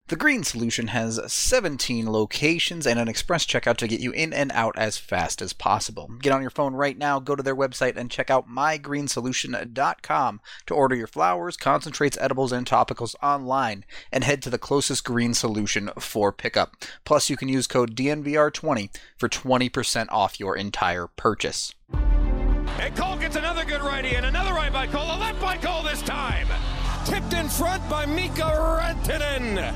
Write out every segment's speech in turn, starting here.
The Green Solution has 17 locations and an express checkout to get you in and out as fast as possible. Get on your phone right now, go to their website, and check out mygreensolution.com to order your flowers, concentrates, edibles, and topicals online, and head to the closest Green Solution for pickup. Plus, you can use code DNVR20 for 20% off your entire purchase. And Cole gets another good righty, and another right by Cole, a left by Cole this time. Tipped in front by Mika Rantanen.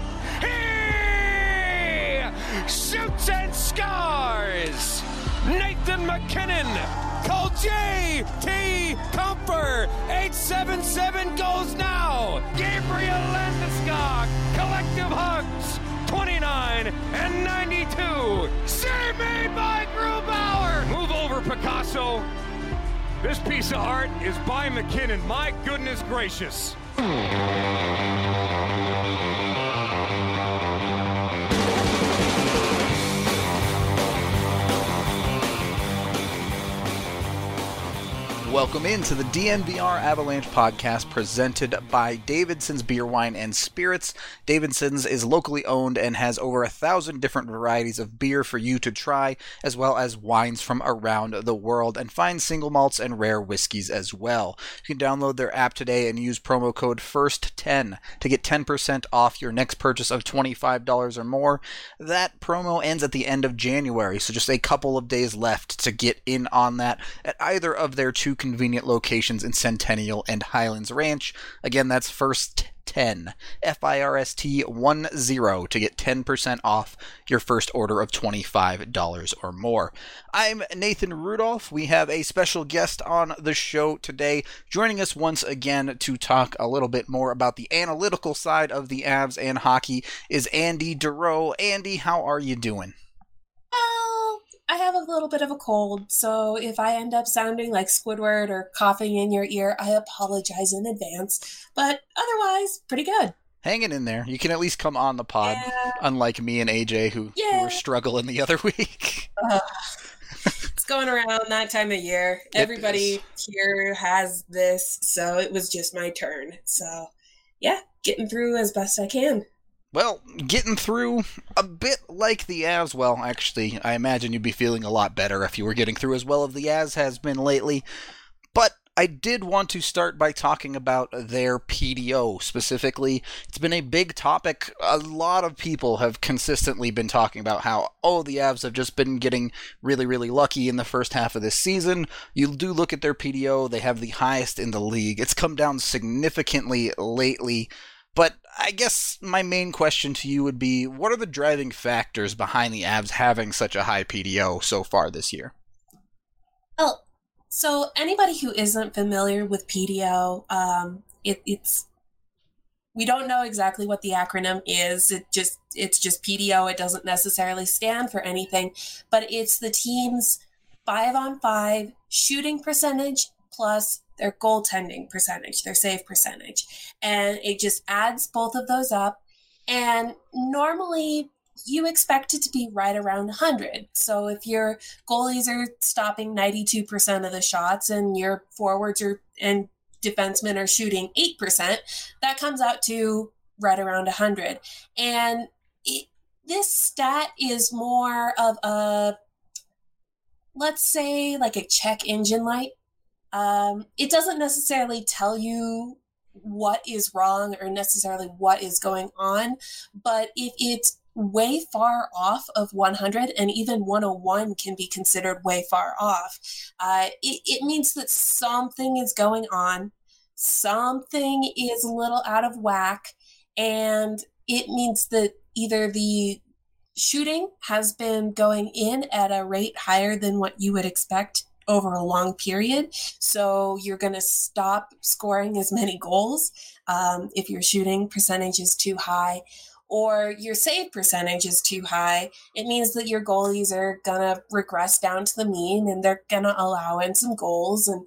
He shoots and scores. Nathan MacKinnon. Cole J.T. Comfer. 877 goes now. Gabriel Landeskog. Collective hugs. 29 and 92. Save made by Grubauer. Move over, Picasso. This piece of art is by MacKinnon. My goodness gracious. Welcome into the DNVR Avalanche podcast presented by Davidson's Beer, Wine, and Spirits. Davidson's is locally owned and has over 1,000 different varieties of beer for you to try, as well as wines from around the world, and fine single malts and rare whiskeys as well. You can download their app today and use promo code FIRST10 to get 10% off your next purchase of $25 or more. That promo ends at the end of January, so just a couple of days left to get in on that at either of their two convenient locations in Centennial and Highlands Ranch. Again, that's First 10, FIRST10 to get 10% off your first order of $25 or more. I'm Nathan Rudolph. We have a special guest on the show today, joining us once again to talk a little bit more about the analytical side of the Avs and hockey is Andy Durow. Andy, how are you doing? I have a little bit of a cold, so if I end up sounding like Squidward or coughing in your ear, I apologize in advance. But otherwise, pretty good. Hanging in there. You can at least come on the pod, unlike me and AJ, who were struggling the other week. It's going around that time of year. Everybody here has this, so it was just my turn. So, yeah, getting through as best I can. Well, getting through a bit like the Avs. Well, actually, I imagine you'd be feeling a lot better if you were getting through as well as the Avs has been lately. But I did want to start by talking about their PDO specifically. It's been a big topic. A lot of people have consistently been talking about how, the Avs have just been getting really, really lucky in the first half of this season. You do look at their PDO, they have the highest in the league. It's come down significantly lately. But I guess my main question to you would be, what are the driving factors behind the Avs having such a high PDO so far this year? Well, so anybody who isn't familiar with PDO, it's we don't know exactly what the acronym is. It's just PDO. It doesn't necessarily stand for anything, but it's the team's 5-on-5 shooting percentage plus their goaltending percentage, their save percentage. And it just adds both of those up. And normally you expect it to be right around 100. So if your goalies are stopping 92% of the shots and your forwards and defensemen are shooting 8%, that comes out to right around 100. And this stat is more of a, let's say, like a check engine light. It doesn't necessarily tell you what is wrong or necessarily what is going on, but if it's way far off of 100, and even 101 can be considered way far off, it means that something is going on, something is a little out of whack, and it means that either the shooting has been going in at a rate higher than what you would expect over a long period. So you're going to stop scoring as many goals if your shooting percentage is too high, or your save percentage is too high. It means that your goalies are going to regress down to the mean and they're going to allow in some goals. And,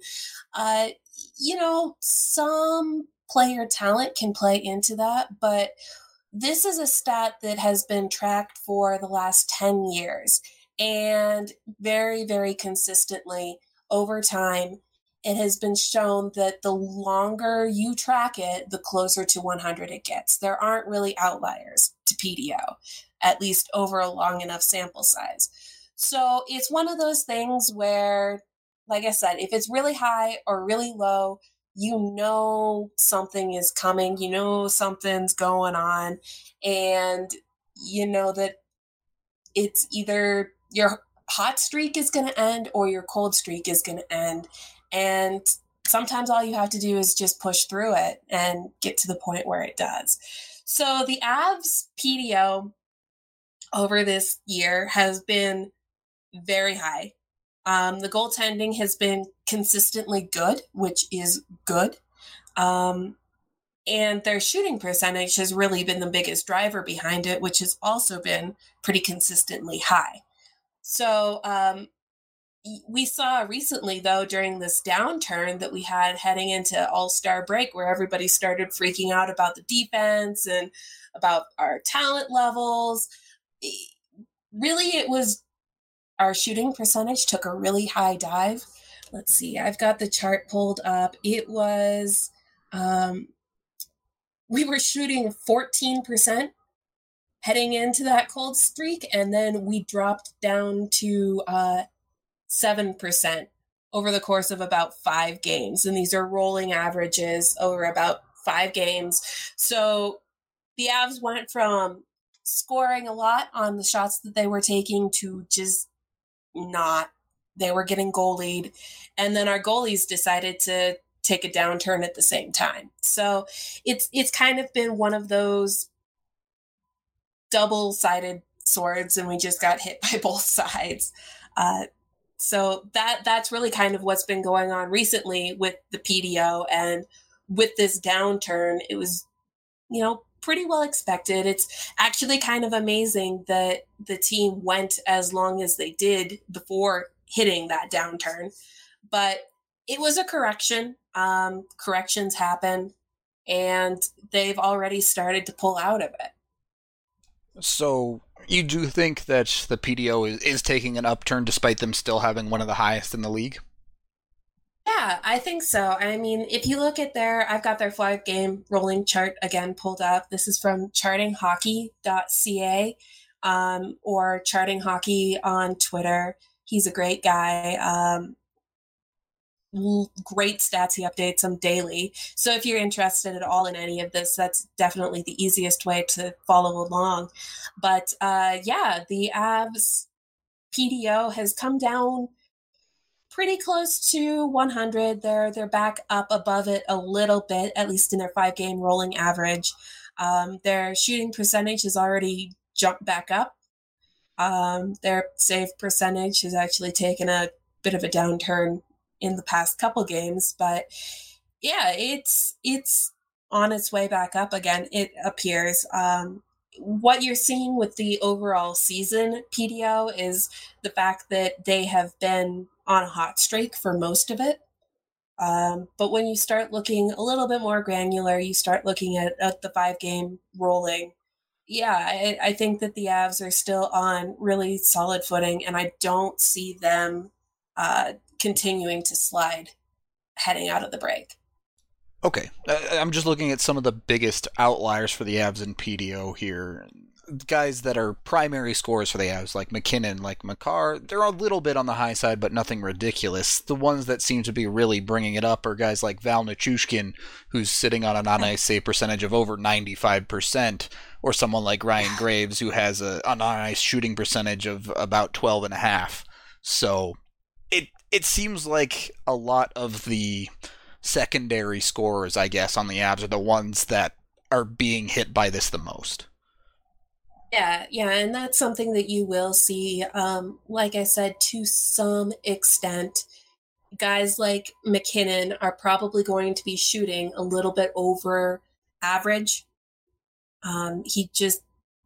some player talent can play into that, but this is a stat that has been tracked for the last 10 years. And very, very consistently over time, it has been shown that the longer you track it, the closer to 100 it gets. There aren't really outliers to PDO, at least over a long enough sample size. So it's one of those things where, like I said, if it's really high or really low, you know something is coming, you know something's going on, and you know that it's either your hot streak is going to end or your cold streak is going to end. And sometimes all you have to do is just push through it and get to the point where it does. So the Avs PDO over this year has been very high. The goaltending has been consistently good, which is good. And their shooting percentage has really been the biggest driver behind it, which has also been pretty consistently high. So we saw recently, though, during this downturn that we had heading into All-Star break, where everybody started freaking out about the defense and about our talent levels. Really, it was our shooting percentage took a really high dive. Let's see, I've got the chart pulled up. It was, we were shooting 14% heading into that cold streak, and then we dropped down to 7% over the course of about 5 games. And these are rolling averages over about 5 games. So the Avs went from scoring a lot on the shots that they were taking to just not. They were getting goalied. And then our goalies decided to take a downturn at the same time. So it's kind of been one of those double-sided swords, and we just got hit by both sides. So that's really kind of what's been going on recently with the PDO, and with this downturn, it was, pretty well expected. It's actually kind of amazing that the team went as long as they did before hitting that downturn, but it was a correction. Corrections happen, and they've already started to pull out of it. So you do think that the PDO is taking an upturn despite them still having one of the highest in the league? Yeah, I think so. I mean, if you look at I've got their 5-game rolling chart again pulled up. This is from chartinghockey.ca or Charting Hockey on Twitter. He's a great guy. Great stats. He updates them daily. So if you're interested at all in any of this, that's definitely the easiest way to follow along. But the Avs PDO has come down pretty close to 100. They're back up above it a little bit, at least in their 5-game rolling average. Their shooting percentage has already jumped back up. Their save percentage has actually taken a bit of a downturn in the past couple games, but yeah, it's on its way back up again, it appears. What you're seeing with the overall season PDO is the fact that they have been on a hot streak for most of it. But when you start looking a little bit more granular, you start looking at the 5-game rolling. Yeah, I think that the Avs are still on really solid footing, and I don't see them continuing to slide heading out of the break. Okay, I'm just looking at some of the biggest outliers for the Avs in PDO here. Guys that are primary scorers for the Avs, like McKinnon, like Makar, they're a little bit on the high side, but nothing ridiculous. The ones that seem to be really bringing it up are guys like Val Nichushkin, who's sitting on an on-ice save percentage of over 95%, or someone like Ryan Graves, who has an on-ice shooting percentage of about 12.5%. So it seems like a lot of the secondary scorers, I guess, on the Avs are the ones that are being hit by this the most. Yeah, and that's something that you will see, like I said, to some extent. Guys like McKinnon are probably going to be shooting a little bit over average. He just,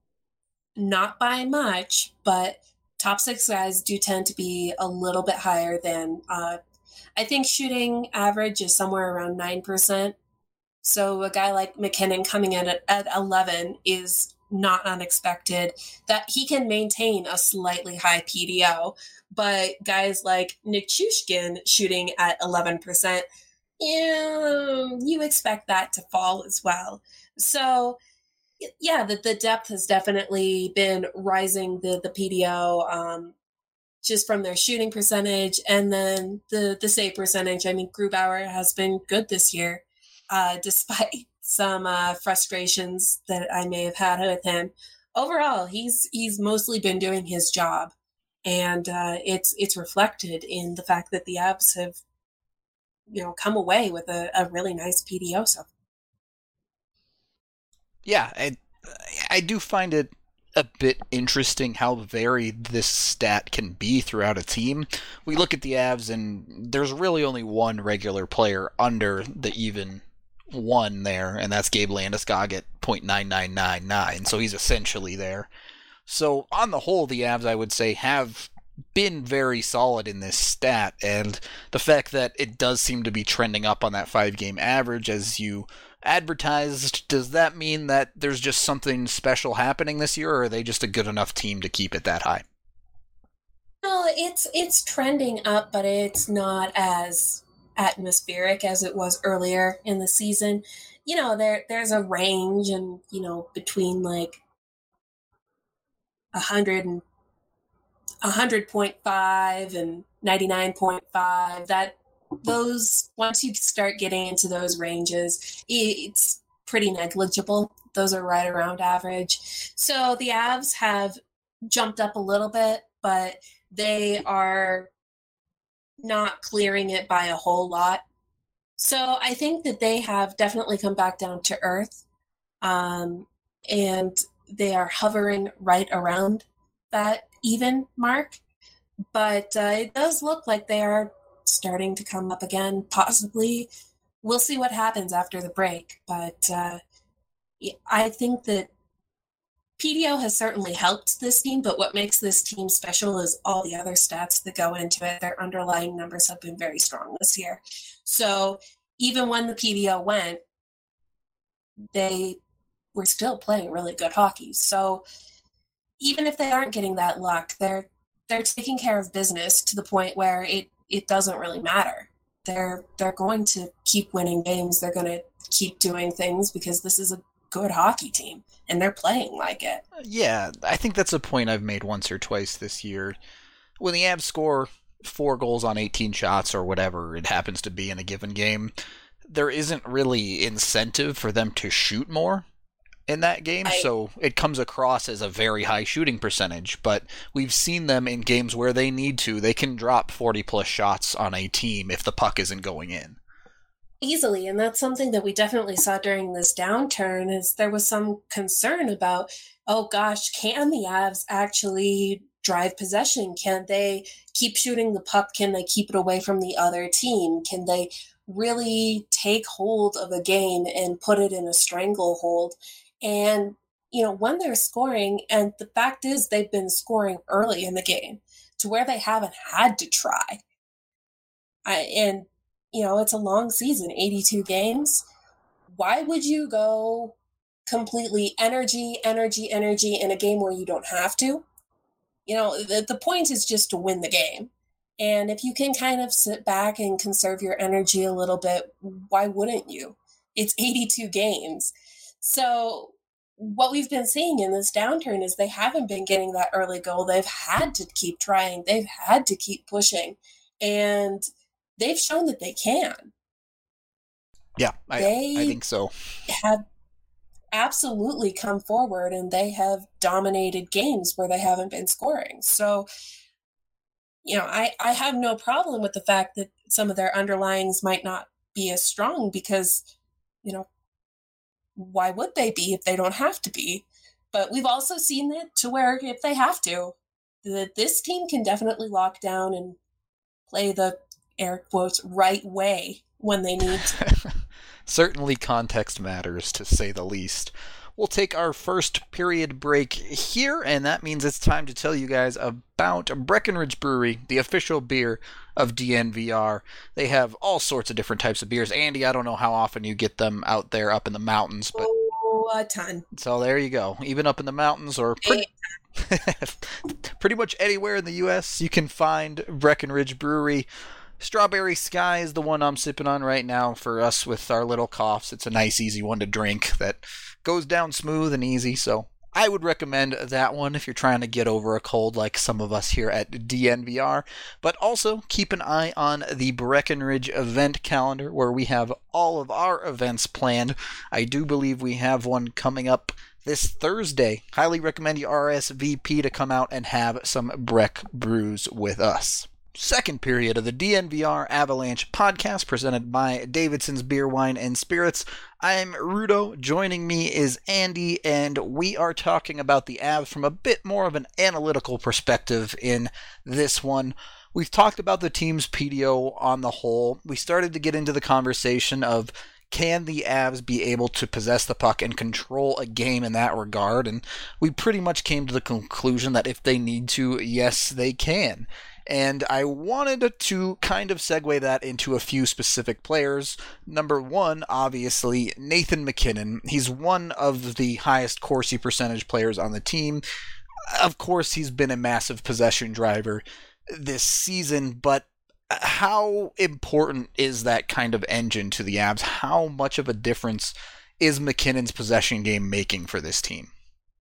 not by much, but top 6 guys do tend to be a little bit higher than, I think shooting average is somewhere around 9%. So a guy like McKinnon coming in at 11 is not unexpected that he can maintain a slightly high PDO, but guys like Nick Chushkin shooting at 11%, you expect that to fall as well. So yeah, the depth has definitely been rising the PDO, just from their shooting percentage, and then the save percentage. I mean, Grubauer has been good this year, despite some frustrations that I may have had with him. Overall, he's mostly been doing his job, and it's reflected in the fact that the Avs have, come away with a really nice PDO. So yeah, I do find it a bit interesting how varied this stat can be throughout a team. We look at the Avs, and there's really only one regular player under the even one there, and that's Gabe Landeskog at .9999, so he's essentially there. So on the whole, the Avs, I would say, have been very solid in this stat, and the fact that it does seem to be trending up on that 5-game average as you advertised, does that mean that there's just something special happening this year, or are they just a good enough team to keep it that high? No, it's trending up, but it's not as atmospheric as it was earlier in the season. There's a range, and between like 100.5 and 99.5, that those, once you start getting into those ranges, it's pretty negligible. Those are right around average. So the Avs have jumped up a little bit, but they are not clearing it by a whole lot. So I think that they have definitely come back down to earth, and they are hovering right around that even mark. But it does look like they are starting to come up again, possibly. We'll see what happens after the break. But I think that PDO has certainly helped this team, but what makes this team special is all the other stats that go into it. Their underlying numbers have been very strong this year. So even when the PDO went, they were still playing really good hockey. So even if they aren't getting that luck, they're taking care of business to the point where it doesn't really matter. They're going to keep winning games. They're going to keep doing things because this is a good hockey team, and they're playing like it. Yeah, I think that's a point I've made once or twice this year. When the Avs score 4 goals on 18 shots or whatever it happens to be in a given game, there isn't really incentive for them to shoot more in that game, so it comes across as a very high shooting percentage, but we've seen them in games where they need to. They can drop 40-plus shots on a team if the puck isn't going in. Easily, and that's something that we definitely saw during this downturn, is there was some concern about, oh gosh, can the Avs actually drive possession? Can they keep shooting the puck? Can they keep it away from the other team? Can they really take hold of a game and put it in a stranglehold? And, when they're scoring, and the fact is they've been scoring early in the game to where they haven't had to try. It's a long season, 82 games. Why would you go completely energy in a game where you don't have to? The point is just to win the game. And if you can kind of sit back and conserve your energy a little bit, why wouldn't you? It's 82 games. So what we've been seeing in this downturn is they haven't been getting that early goal. They've had to keep trying. They've had to keep pushing. And they've shown that they can. Yeah, I think so. Have absolutely come forward, and they have dominated games where they haven't been scoring. So, I have no problem with the fact that some of their underlyings might not be as strong because, why would they be if they don't have to be? But we've also seen it to where if they have to, that this team can definitely lock down and play the air quotes right way when they need to. Certainly context matters, to say the least. We'll take our first period break here, and that means it's time to tell you guys about Breckenridge Brewery, the official beer of DNVR. They have all sorts of different types of beers. Andy, I don't know how often you get them out there up in the mountains, but Oh, a ton. So there you go. Even up in the mountains or pretty much anywhere in the U.S., you can find Breckenridge Brewery. Strawberry Sky is the one I'm sipping on right now for us with our little coughs. It's a nice, easy one to drink that goes down smooth and easy, so I would recommend that one if you're trying to get over a cold like some of us here at DNVR. But also keep an eye on the Breckenridge event calendar where we have all of our events planned. I do believe we have one coming up this Thursday. Highly recommend you RSVP to come out and have some Breck brews with us. Second period of the DNVR Avalanche podcast presented by Davidson's Beer, Wine, and Spirits. I'm Rudo. Joining me is Andy, and we are talking about the Avs from a bit more of an analytical perspective in this one. We've talked about the team's PDO on the whole. We started to get into the conversation of can the Avs be able to possess the puck and control a game in that regard, and we pretty much came to the conclusion that if they need to, yes, they can. And I wanted to kind of segue that into a few specific players. Number one, obviously, Nathan MacKinnon. He's one of the highest Corsi percentage players on the team. Of course, he's been a massive possession driver this season, but how important is that kind of engine to the Avs? How much of a difference is MacKinnon's possession game making for this team?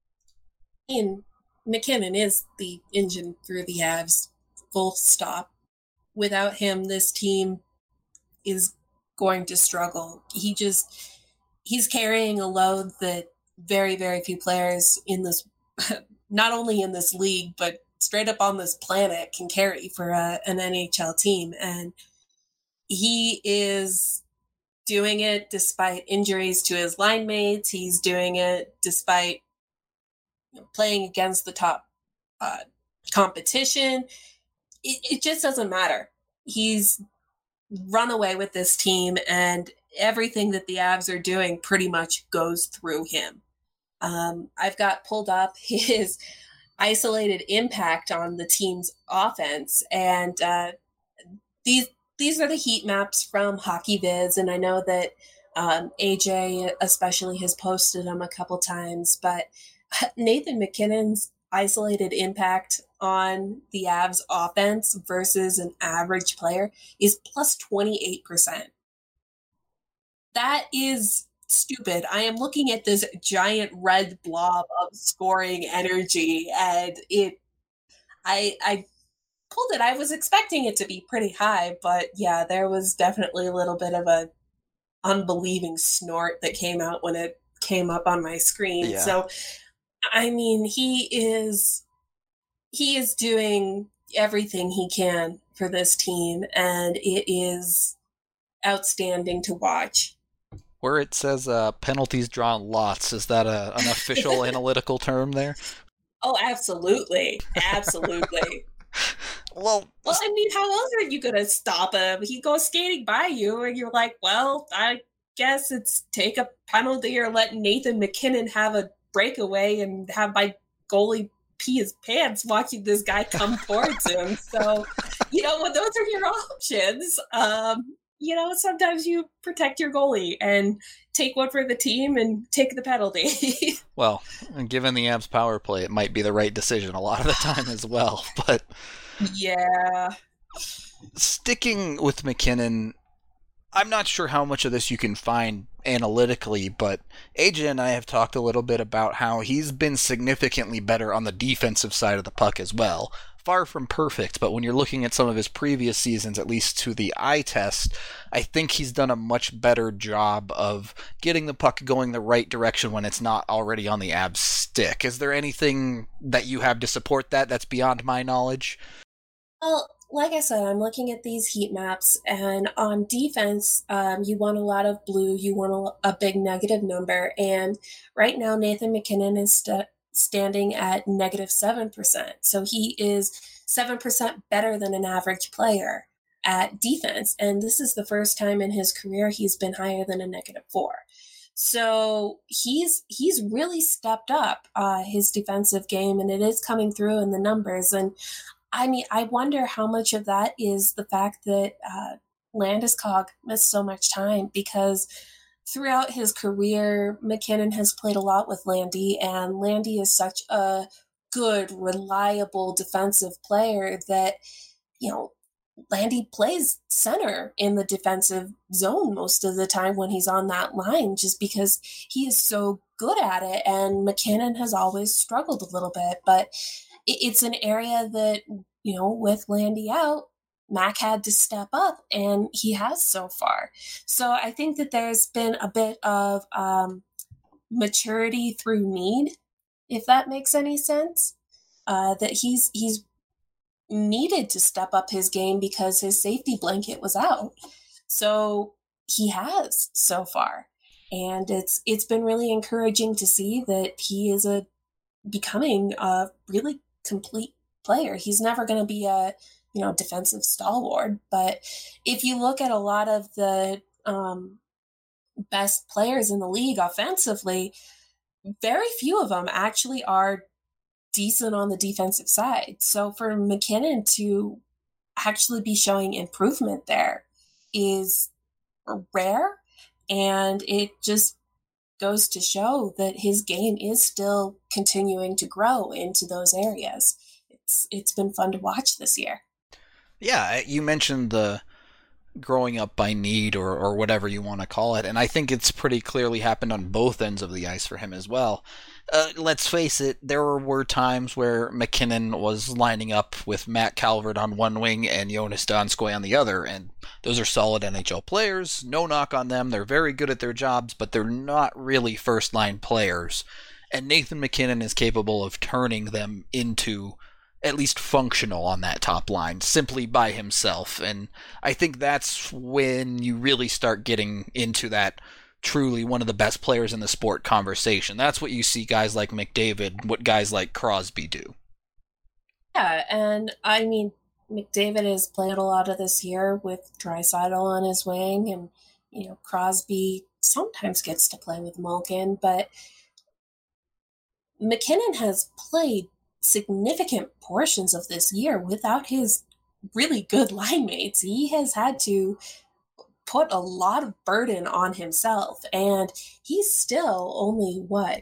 MacKinnon is the engine through the Avs. Full stop. Without him, this team is going to struggle. He's carrying a load that very, very few players in this, not only in this league, but straight up on this planet can carry for an NHL team. And he is doing it despite injuries to his line mates. He's doing it despite playing against the top competition. It just doesn't matter. He's run away with this team, and everything that the Avs are doing pretty much goes through him. I've got pulled up his isolated impact on the team's offense, and these are the heat maps from HockeyViz, and I know that AJ especially has posted them a couple times, but Nathan MacKinnon's isolated impact on the Avs offense versus an average player is plus 28%. That is stupid. I am looking at this giant red blob of scoring energy, and I pulled it. I was expecting it to be pretty high, but yeah, there was definitely a little bit of a unbelieving snort that came out when it came up on my screen. Yeah. So I mean, he is doing everything he can for this team, and it is outstanding to watch. Where it says penalties drawn lots, is that an official analytical term there? Oh, absolutely. Absolutely. Well, I mean, how else are you going to stop him? He goes skating by you, and you're like, well, I guess it's take a penalty or let Nathan MacKinnon have a breakaway and have my goalie pee his pants watching this guy come towards him. So, when those are your options, sometimes you protect your goalie and take one for the team and take the penalty. Well, given the Avs power play, it might be the right decision a lot of the time as well. But yeah, sticking with MacKinnon, I'm not sure how much of this you can find analytically, but AJ and I have talked a little bit about how he's been significantly better on the defensive side of the puck as well. Far from perfect, but when you're looking at some of his previous seasons, at least to the eye test, I think he's done a much better job of getting the puck going the right direction when it's not already on the Avs stick. Is there anything that you have to support that that's beyond my knowledge? Well, like I said, I'm looking at these heat maps, and on defense, you want a lot of blue, you want a big negative number, and right now Nathan MacKinnon is standing at negative 7%. So he is 7% better than an average player at defense, and this is the first time in his career he's been higher than a negative 4. So he's really stepped up his defensive game, and it is coming through in the numbers. And I mean, I wonder how much of that is the fact that Landeskog missed so much time, because throughout his career, MacKinnon has played a lot with Landy, and Landy is such a good, reliable defensive player that, Landy plays center in the defensive zone most of the time when he's on that line, just because he is so good at it. And MacKinnon has always struggled a little bit, but it's an area that, with Landy out, Mac had to step up, and he has so far. So I think that there's been a bit of maturity through need, if that makes any sense. That he's needed to step up his game because his safety blanket was out. So he has so far. And it's been really encouraging to see that he is becoming a really complete player. He's never going to be a defensive stalwart, but if you look at a lot of the best players in the league offensively, very few of them actually are decent on the defensive side. So for MacKinnon to actually be showing improvement there is rare, and it just goes to show that his game is still continuing to grow into those areas. It's been fun to watch this year. Yeah, you mentioned the growing up by need or whatever you want to call it, and I think it's pretty clearly happened on both ends of the ice for him as well. Let's face it, there were times where MacKinnon was lining up with Matt Calvert on one wing and Jonas Donskoy on the other, and those are solid NHL players, no knock on them, they're very good at their jobs, but they're not really first-line players, and Nathan MacKinnon is capable of turning them into at least functional on that top line simply by himself. And I think that's when you really start getting into that truly one of the best players in the sport conversation. That's what you see guys like McDavid, what guys like Crosby do. Yeah, and I mean, McDavid has played a lot of this year with Draisaitl on his wing, and Crosby sometimes gets to play with Malkin, but MacKinnon has played significant portions of this year without his really good line mates. He has had to put a lot of burden on himself, and he's still only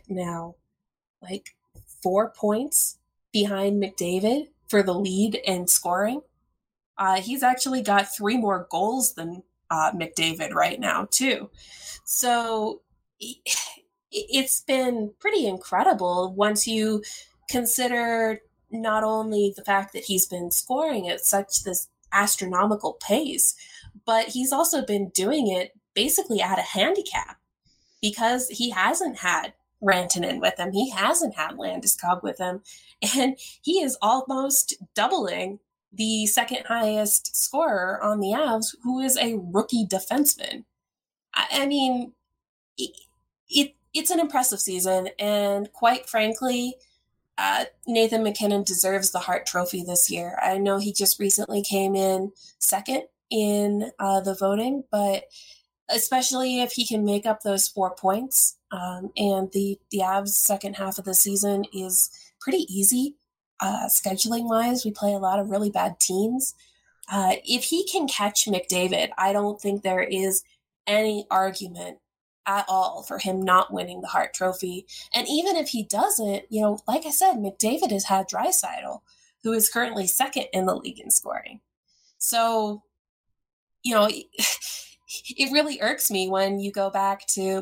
4 points behind McDavid for the lead in scoring. He's actually got 3 more goals than McDavid right now too. So it's been pretty incredible once you consider not only the fact that he's been scoring at such this astronomical pace, but he's also been doing it basically at a handicap because he hasn't had Rantanen with him. He hasn't had Landeskog with him. And he is almost doubling the second highest scorer on the Avs, who is a rookie defenseman. I mean, it's an impressive season. And quite frankly, Nathan MacKinnon deserves the Hart Trophy this year. I know he just recently came in second in the voting, but especially if he can make up those 4 points, and the Avs' second half of the season is pretty easy scheduling-wise. We play a lot of really bad teams. If he can catch McDavid, I don't think there is any argument at all for him not winning the Hart Trophy. And even if he doesn't, like I said, McDavid has had Draisaitl, who is currently second in the league in scoring. So, it really irks me when you go back to,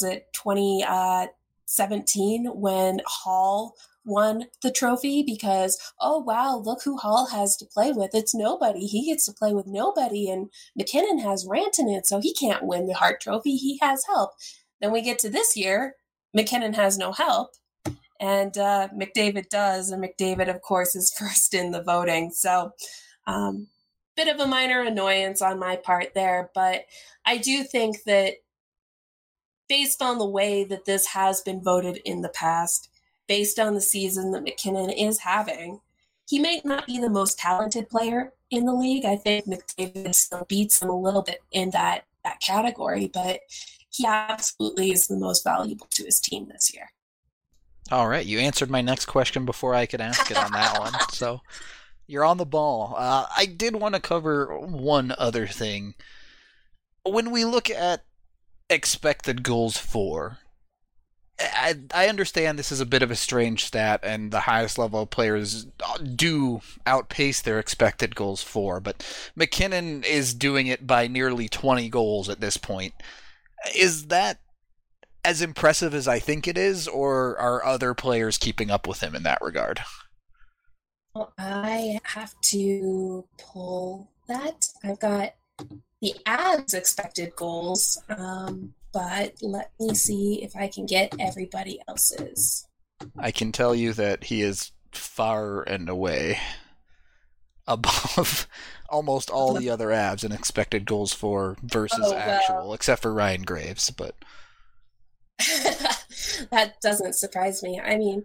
2017, when Hall won the trophy, because, oh, wow, look who Hall has to play with. It's nobody. He gets to play with nobody, and MacKinnon has Rantanen, so he can't win the Hart Trophy. He has help. Then we get to this year, MacKinnon has no help, and McDavid does, and McDavid, of course, is first in the voting. So, bit of a minor annoyance on my part there, but I do think that based on the way that this has been voted in the past, based on the season that MacKinnon is having, he may not be the most talented player in the league. I think McDavid still beats him a little bit in that category, but he absolutely is the most valuable to his team this year. All right, you answered my next question before I could ask it on that one, so you're on the ball. I did want to cover one other thing. When we look at expected goals for. I understand this is a bit of a strange stat, and the highest level players do outpace their expected goals for, but MacKinnon is doing it by nearly 20 goals at this point. Is that as impressive as I think it is, or are other players keeping up with him in that regard? Well, I have to pull that. I've got the Avs expected goals, but let me see if I can get everybody else's. I can tell you that he is far and away above almost all the other Avs in expected goals for versus actual, except for Ryan Graves, but that doesn't surprise me. I mean,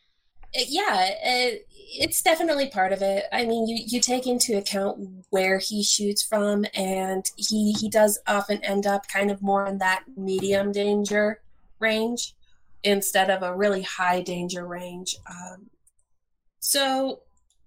it's definitely part of it. I mean, you take into account where he shoots from, and he does often end up kind of more in that medium danger range instead of a really high danger range. So,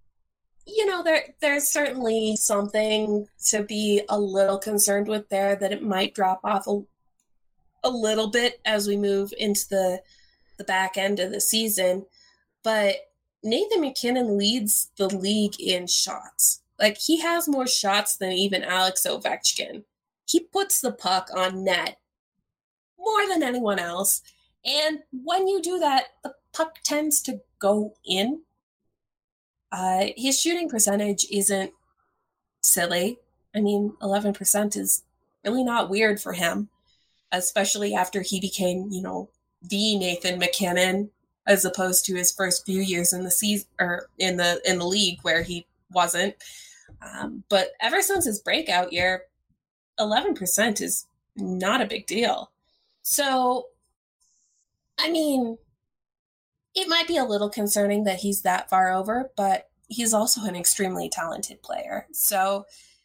there's certainly something to be a little concerned with there, that it might drop off a little bit as we move into the back end of the season. But Nathan MacKinnon leads the league in shots. Like, he has more shots than even Alex Ovechkin. He puts the puck on net more than anyone else. And when you do that, the puck tends to go in. His shooting percentage isn't silly. I mean, 11% is really not weird for him, especially after he became, the Nathan MacKinnon, as opposed to his first few years in the season or in the league where he wasn't. But ever since his breakout year, 11% is not a big deal. So, I mean, it might be a little concerning that he's that far over, but he's also an extremely talented player. So,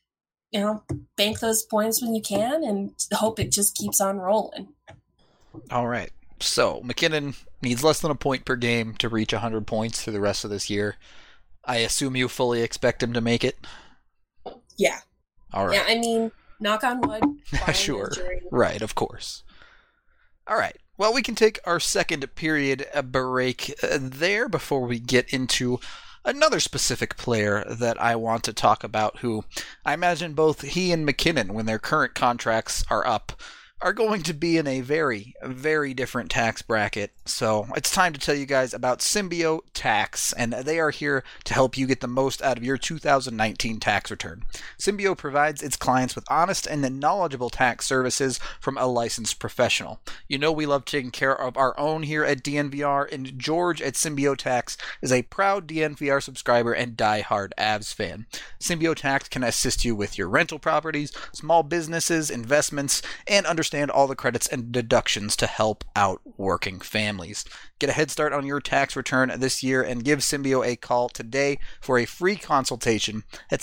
bank those points when you can and hope it just keeps on rolling. All right. So, MacKinnon needs less than a point per game to reach 100 points through the rest of this year. I assume you fully expect him to make it? Yeah. All right. Yeah, I mean, knock on wood. Sure. Right, of course. All right. Well, we can take our second period break there before we get into another specific player that I want to talk about, who I imagine both he and MacKinnon, when their current contracts are up, are going to be in a very, very different tax bracket. So it's time to tell you guys about Symbio Tax, and they are here to help you get the most out of your 2019 tax return. Symbio provides its clients with honest and knowledgeable tax services from a licensed professional. You know we love taking care of our own here at DNVR, and George at Symbio Tax is a proud DNVR subscriber and die-hard Avs fan. Symbio Tax can assist you with your rental properties, small businesses, investments, and understand all the credits and deductions to help out working families. Get a head start on your tax return this year and give Symbio a call today for a free consultation at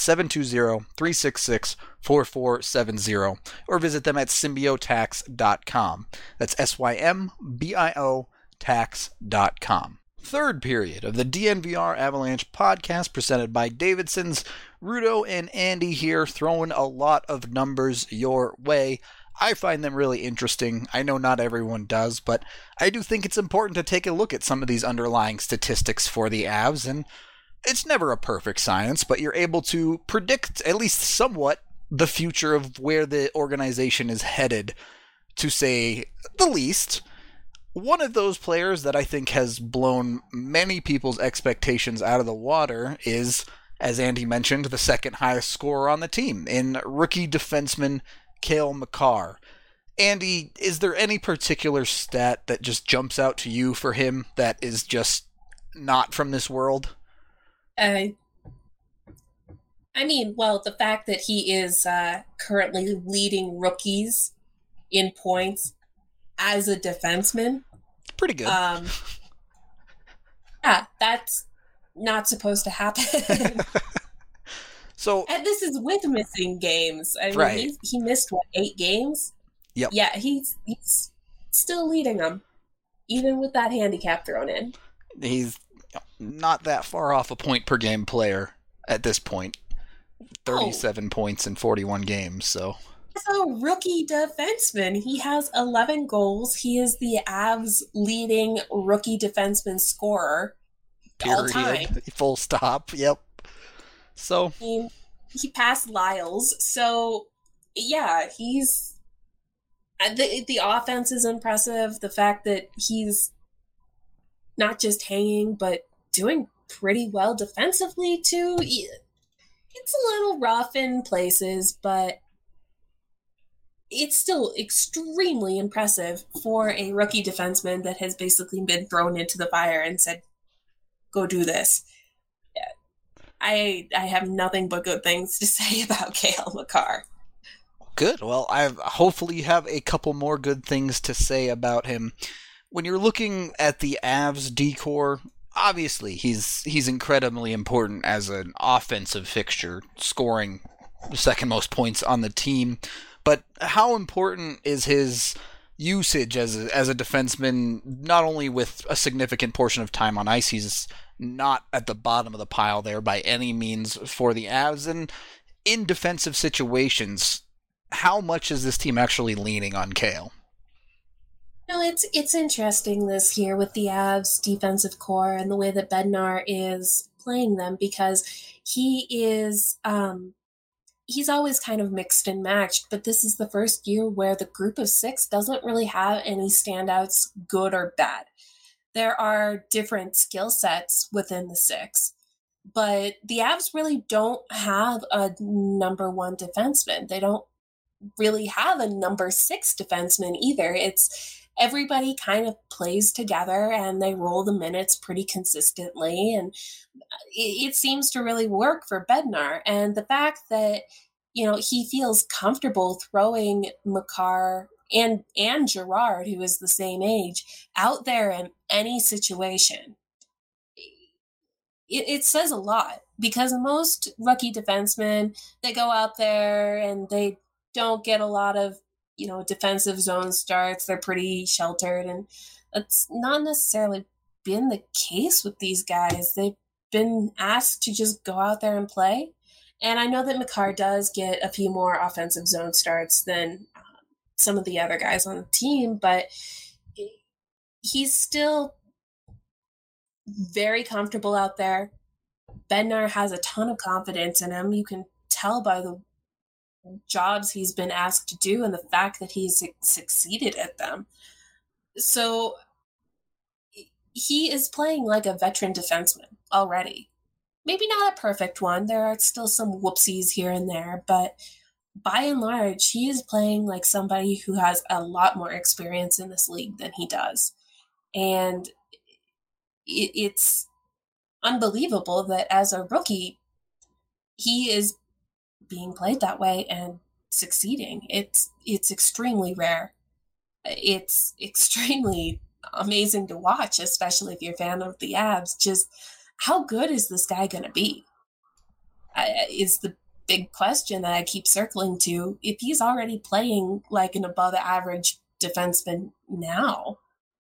720-366-4470 or visit them at symbiotax.com. That's SYMBIO tax.com. Third period of the DNVR Avalanche podcast presented by Davidson's. Rudo and Andy here throwing a lot of numbers your way. I find them really interesting. I know not everyone does, but I do think it's important to take a look at some of these underlying statistics for the Avs, and it's never a perfect science, but you're able to predict, at least somewhat, the future of where the organization is headed, to say the least. One of those players that I think has blown many people's expectations out of the water is, as Andy mentioned, the second highest scorer on the team in rookie defenseman Cale Makar. Andy, is there any particular stat that just jumps out to you for him that is just not from this world? I mean, well, the fact that he is currently leading rookies in points as a defenseman. Pretty good. Yeah, that's not supposed to happen. So, and this is with missing games. I mean, right. he missed, 8 games? Yep. Yeah, he's still leading them, even with that handicap thrown in. He's not that far off a point per game player at this point. 37 points in 41 games, so. As a rookie defenseman, he has 11 goals. He is the Avs' leading rookie defenseman scorer all time. Period. Full stop. Yep. So, He passed Lyles. So, yeah, he's the offense is impressive. The fact that he's not just hanging, but doing pretty well defensively too. It's a little rough in places, but it's still extremely impressive for a rookie defenseman that has basically been thrown into the fire and said, go do this. I have nothing but good things to say about Cale Makar. good. Well, hopefully you have a couple more good things to say about him. When you're looking at the Avs decor, obviously he's incredibly important as an offensive fixture, scoring the second most points on the team. But how important is his usage as a defenseman, not only with a significant portion of time on ice, he's not at the bottom of the pile there by any means for the Avs, and in defensive situations, how much is this team actually leaning on Cale? No, it's interesting this year with the Avs defensive core and the way that Bednar is playing them, because he is he's always kind of mixed and matched, but this is the first year where the group of six doesn't really have any standouts, good or bad. There are different skill sets within the six, but the Avs really don't have a number one defenseman. They don't really have a number six defenseman either. It's everybody kind of plays together and they roll the minutes pretty consistently, and it seems to really work for Bednar. And the fact that, you know, he feels comfortable throwing Makar and Gerard, who is the same age, out there in any situation, it says a lot, because most rookie defensemen, they go out there and they don't get a lot of, you know, defensive zone starts. They're pretty sheltered, and that's not necessarily been the case with these guys. They've been asked to just go out there and play. And I know that Makar does get a few more offensive zone starts than some of the other guys on the team, but he's still very comfortable out there. Bednar has a ton of confidence in him. You can tell by the jobs he's been asked to do and the fact that he's succeeded at them. So he is playing like a veteran defenseman already. Maybe not a perfect one. There are still some whoopsies here and there, but by and large, he is playing like somebody who has a lot more experience in this league than he does. And it's unbelievable that as a rookie, he is being played that way and succeeding. It's extremely rare. It's extremely amazing to watch, especially if you're a fan of the Avs. Just how good is this guy going to be? Is the big question that I keep circling to. If he's already playing like an above average defenseman now,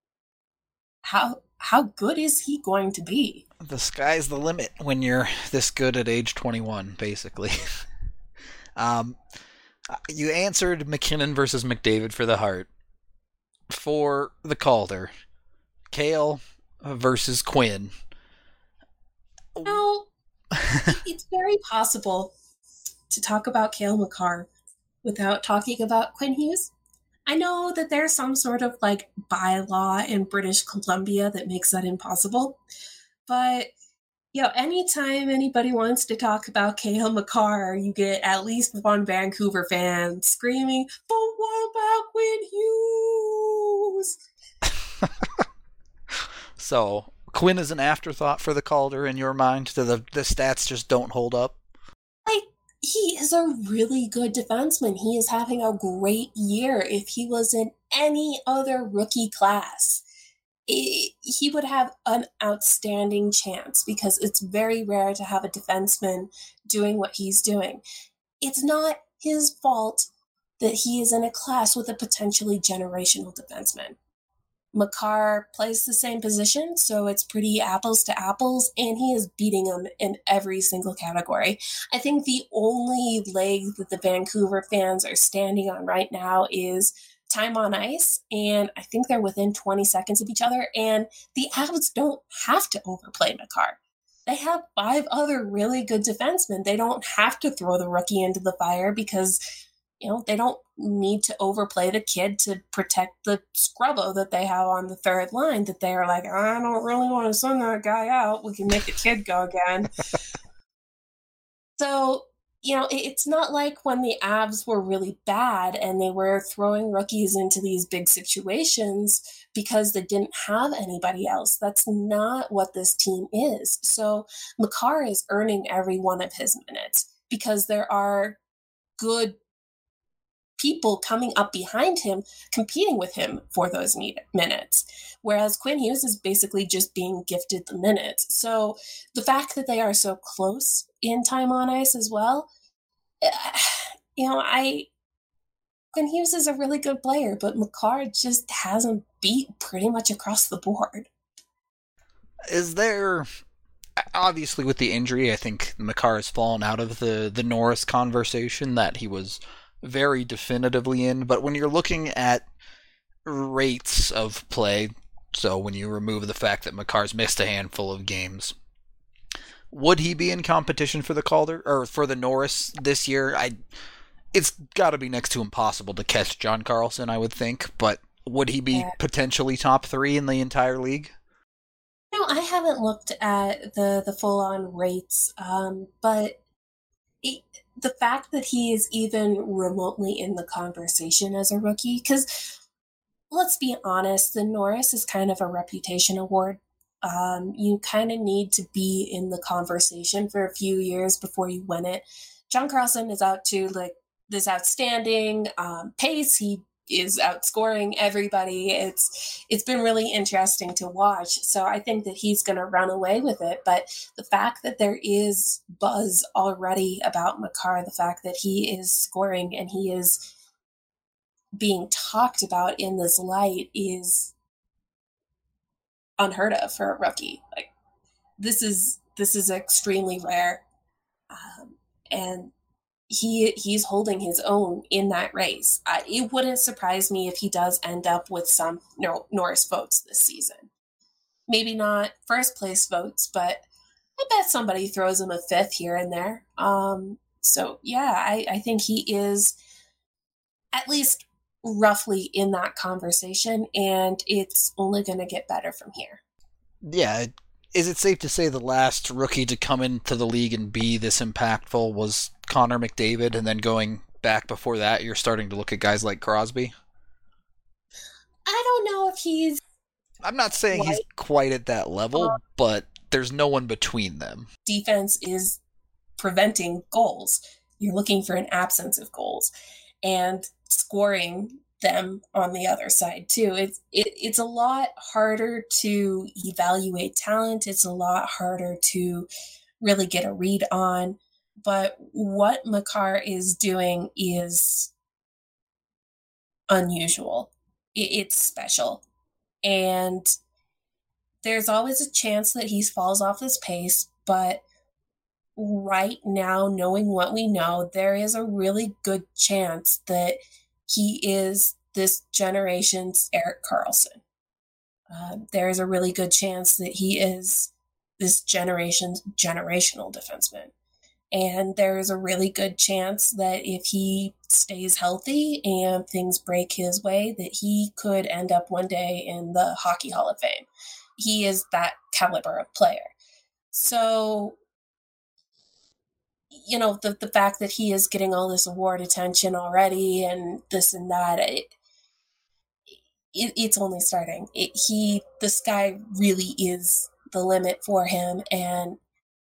how good is he going to be? The sky's the limit when you're this good at age 21, basically. You answered MacKinnon versus McDavid for the Hart. For the Calder, Cale versus Quinn. No, it's very possible to talk about Cale Makar without talking about Quinn Hughes. I know that there's some sort of like bylaw in British Columbia that makes that impossible, but you know, anytime anybody wants to talk about Cale Makar, you get at least one Vancouver fan screaming, "But what about Quinn Hughes?" So, Quinn is an afterthought for the Calder in your mind? The stats just don't hold up? Like, he is a really good defenseman. He is having a great year. If he was in any other rookie class, he would have an outstanding chance, because it's very rare to have a defenseman doing what he's doing. It's not his fault that he is in a class with a potentially generational defenseman. Makar plays the same position, so it's pretty apples to apples, and he is beating them in every single category. I think the only leg that the Vancouver fans are standing on right now is time on ice, and I think they're within 20 seconds of each other, and the Avs don't have to overplay Makar. They have 5 other really good defensemen. They don't have to throw the rookie into the fire because they don't need to overplay the kid to protect the scrubbo that they have on the third line, that they're like, I don't really want to send that guy out. We can make the kid go again. So, it's not like when the Avs were really bad and they were throwing rookies into these big situations because they didn't have anybody else. That's not what this team is. So Makar is earning every one of his minutes because there are good people coming up behind him, competing with him for those minutes. Whereas Quinn Hughes is basically just being gifted the minutes. So the fact that they are so close in time on ice as well, Quinn Hughes is a really good player, but Makar just hasn't beat pretty much across the board. Is there, obviously with the injury, I think Makar has fallen out of the Norris conversation that he was very definitively in, but when you're looking at rates of play, so when you remove the fact that Makar's missed a handful of games, would he be in competition for the Calder or for the Norris this year? It's got to be next to impossible to catch John Carlson, I would think, but would he be potentially top 3 in the entire league? No, I haven't looked at the full-on rates, but the fact that he is even remotely in the conversation as a rookie, because let's be honest, the Norris is kind of a reputation award. You kind of need to be in the conversation for a few years before you win it. John Carlson is out to this outstanding pace. He is outscoring everybody. It's been really interesting to watch. So I think that he's going to run away with it. But the fact that there is buzz already about Makar, the fact that he is scoring and he is being talked about in this light is unheard of for a rookie. This is extremely rare, and he's holding his own in that race. It wouldn't surprise me if he does end up with some Norris votes this season. Maybe not first place votes, but I bet somebody throws him a 5th here and there. So yeah, I think he is at least roughly in that conversation, and it's only going to get better from here. Yeah. Is it safe to say the last rookie to come into the league and be this impactful was Connor McDavid, and then going back before that, you're starting to look at guys like Crosby? I don't know if he's... I'm not saying he's quite at that level, but there's no one between them. Defense is preventing goals. You're looking for an absence of goals. And scoring them on the other side too. It's a lot harder to evaluate talent. It's a lot harder to really get a read on. But what Makar is doing is unusual. It's special. And there's always a chance that he falls off his pace, but right now, knowing what we know, there is a really good chance that he is this generation's Erik Karlsson. There is a really good chance that he is this generation's generational defenseman. And there is a really good chance that if he stays healthy and things break his way, that he could end up one day in the Hockey Hall of Fame. He is that caliber of player. So, the fact that he is getting all this award attention already and this and that, it's only starting. The sky really is the limit for him, and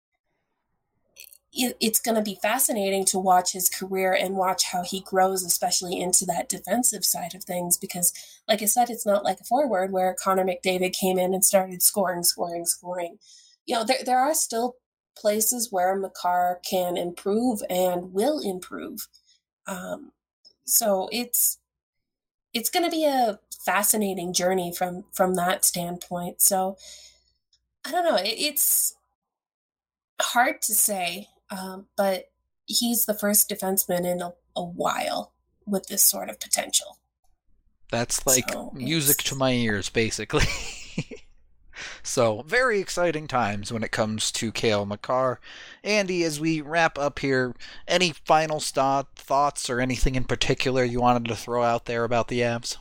it's going to be fascinating to watch his career and watch how he grows, especially into that defensive side of things, because like I said, it's not like a forward where Connor McDavid came in and started scoring. There are still places where Makar can improve and will improve. So it's it's going to be a fascinating journey from that standpoint. So I don't know. It's hard to say, but he's the first defenseman in a while with this sort of potential. That's like music to my ears, basically. So, very exciting times when it comes to Cale Makar. Andy, as we wrap up here, any final thoughts or anything in particular you wanted to throw out there about the Avs?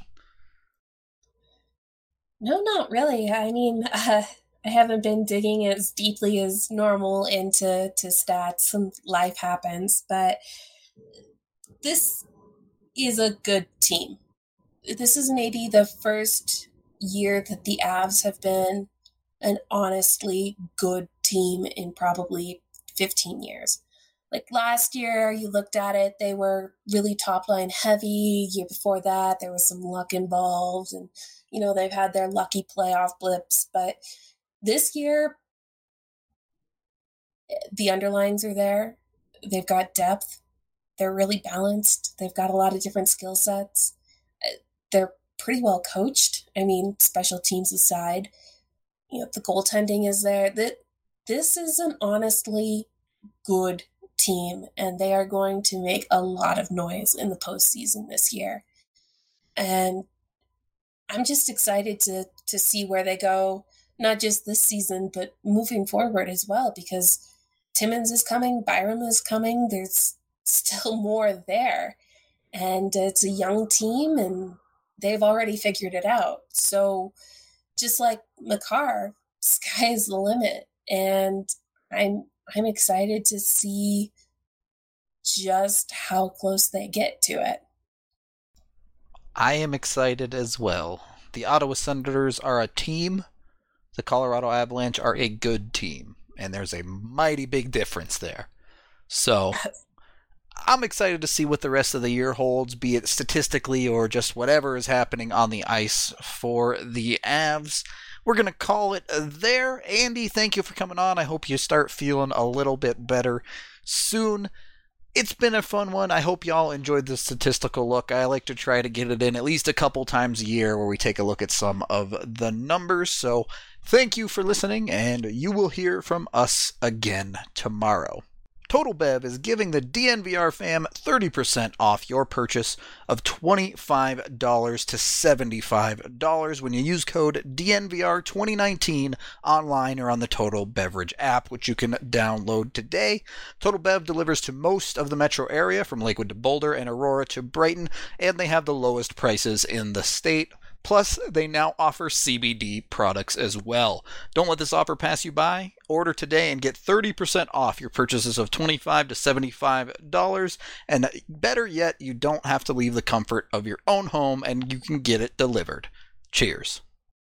No, not really. I mean, I haven't been digging as deeply as normal into stats. Some life happens, but this is a good team. This is maybe the first year that the Avs have been an honestly good team in probably 15 years. Like last year, you looked at it, they were really top line heavy. Year before that, there was some luck involved, and they've had their lucky playoff blips. But this year, the underlines are there. They've got depth. They're really balanced. They've got a lot of different skill sets. They're pretty well coached. I mean, special teams aside, the goaltending is there. This is an honestly good team, and they are going to make a lot of noise in the postseason this year. And I'm just excited to see where they go, not just this season, but moving forward as well, because Timmins is coming, Byram is coming, there's still more there. And it's a young team, and they've already figured it out. So just like Makar, sky is the limit. And I'm excited to see just how close they get to it. I am excited as well. The Ottawa Senators are a team. The Colorado Avalanche are a good team. And there's a mighty big difference there. So I'm excited to see what the rest of the year holds, be it statistically or just whatever is happening on the ice for the Avs. We're going to call it there. Andy, thank you for coming on. I hope you start feeling a little bit better soon. It's been a fun one. I hope y'all enjoyed the statistical look. I like to try to get it in at least a couple times a year where we take a look at some of the numbers. So thank you for listening, and you will hear from us again tomorrow. Total Bev is giving the DNVR fam 30% off your purchase of $25 to $75 when you use code DNVR2019 online or on the Total Beverage app, which you can download today. Total Bev delivers to most of the metro area, from Lakewood to Boulder and Aurora to Brighton, and they have the lowest prices in the state. Plus, they now offer CBD products as well. Don't let this offer pass you by. Order today and get 30% off your purchases of $25 to $75. And better yet, you don't have to leave the comfort of your own home, and you can get it delivered. Cheers.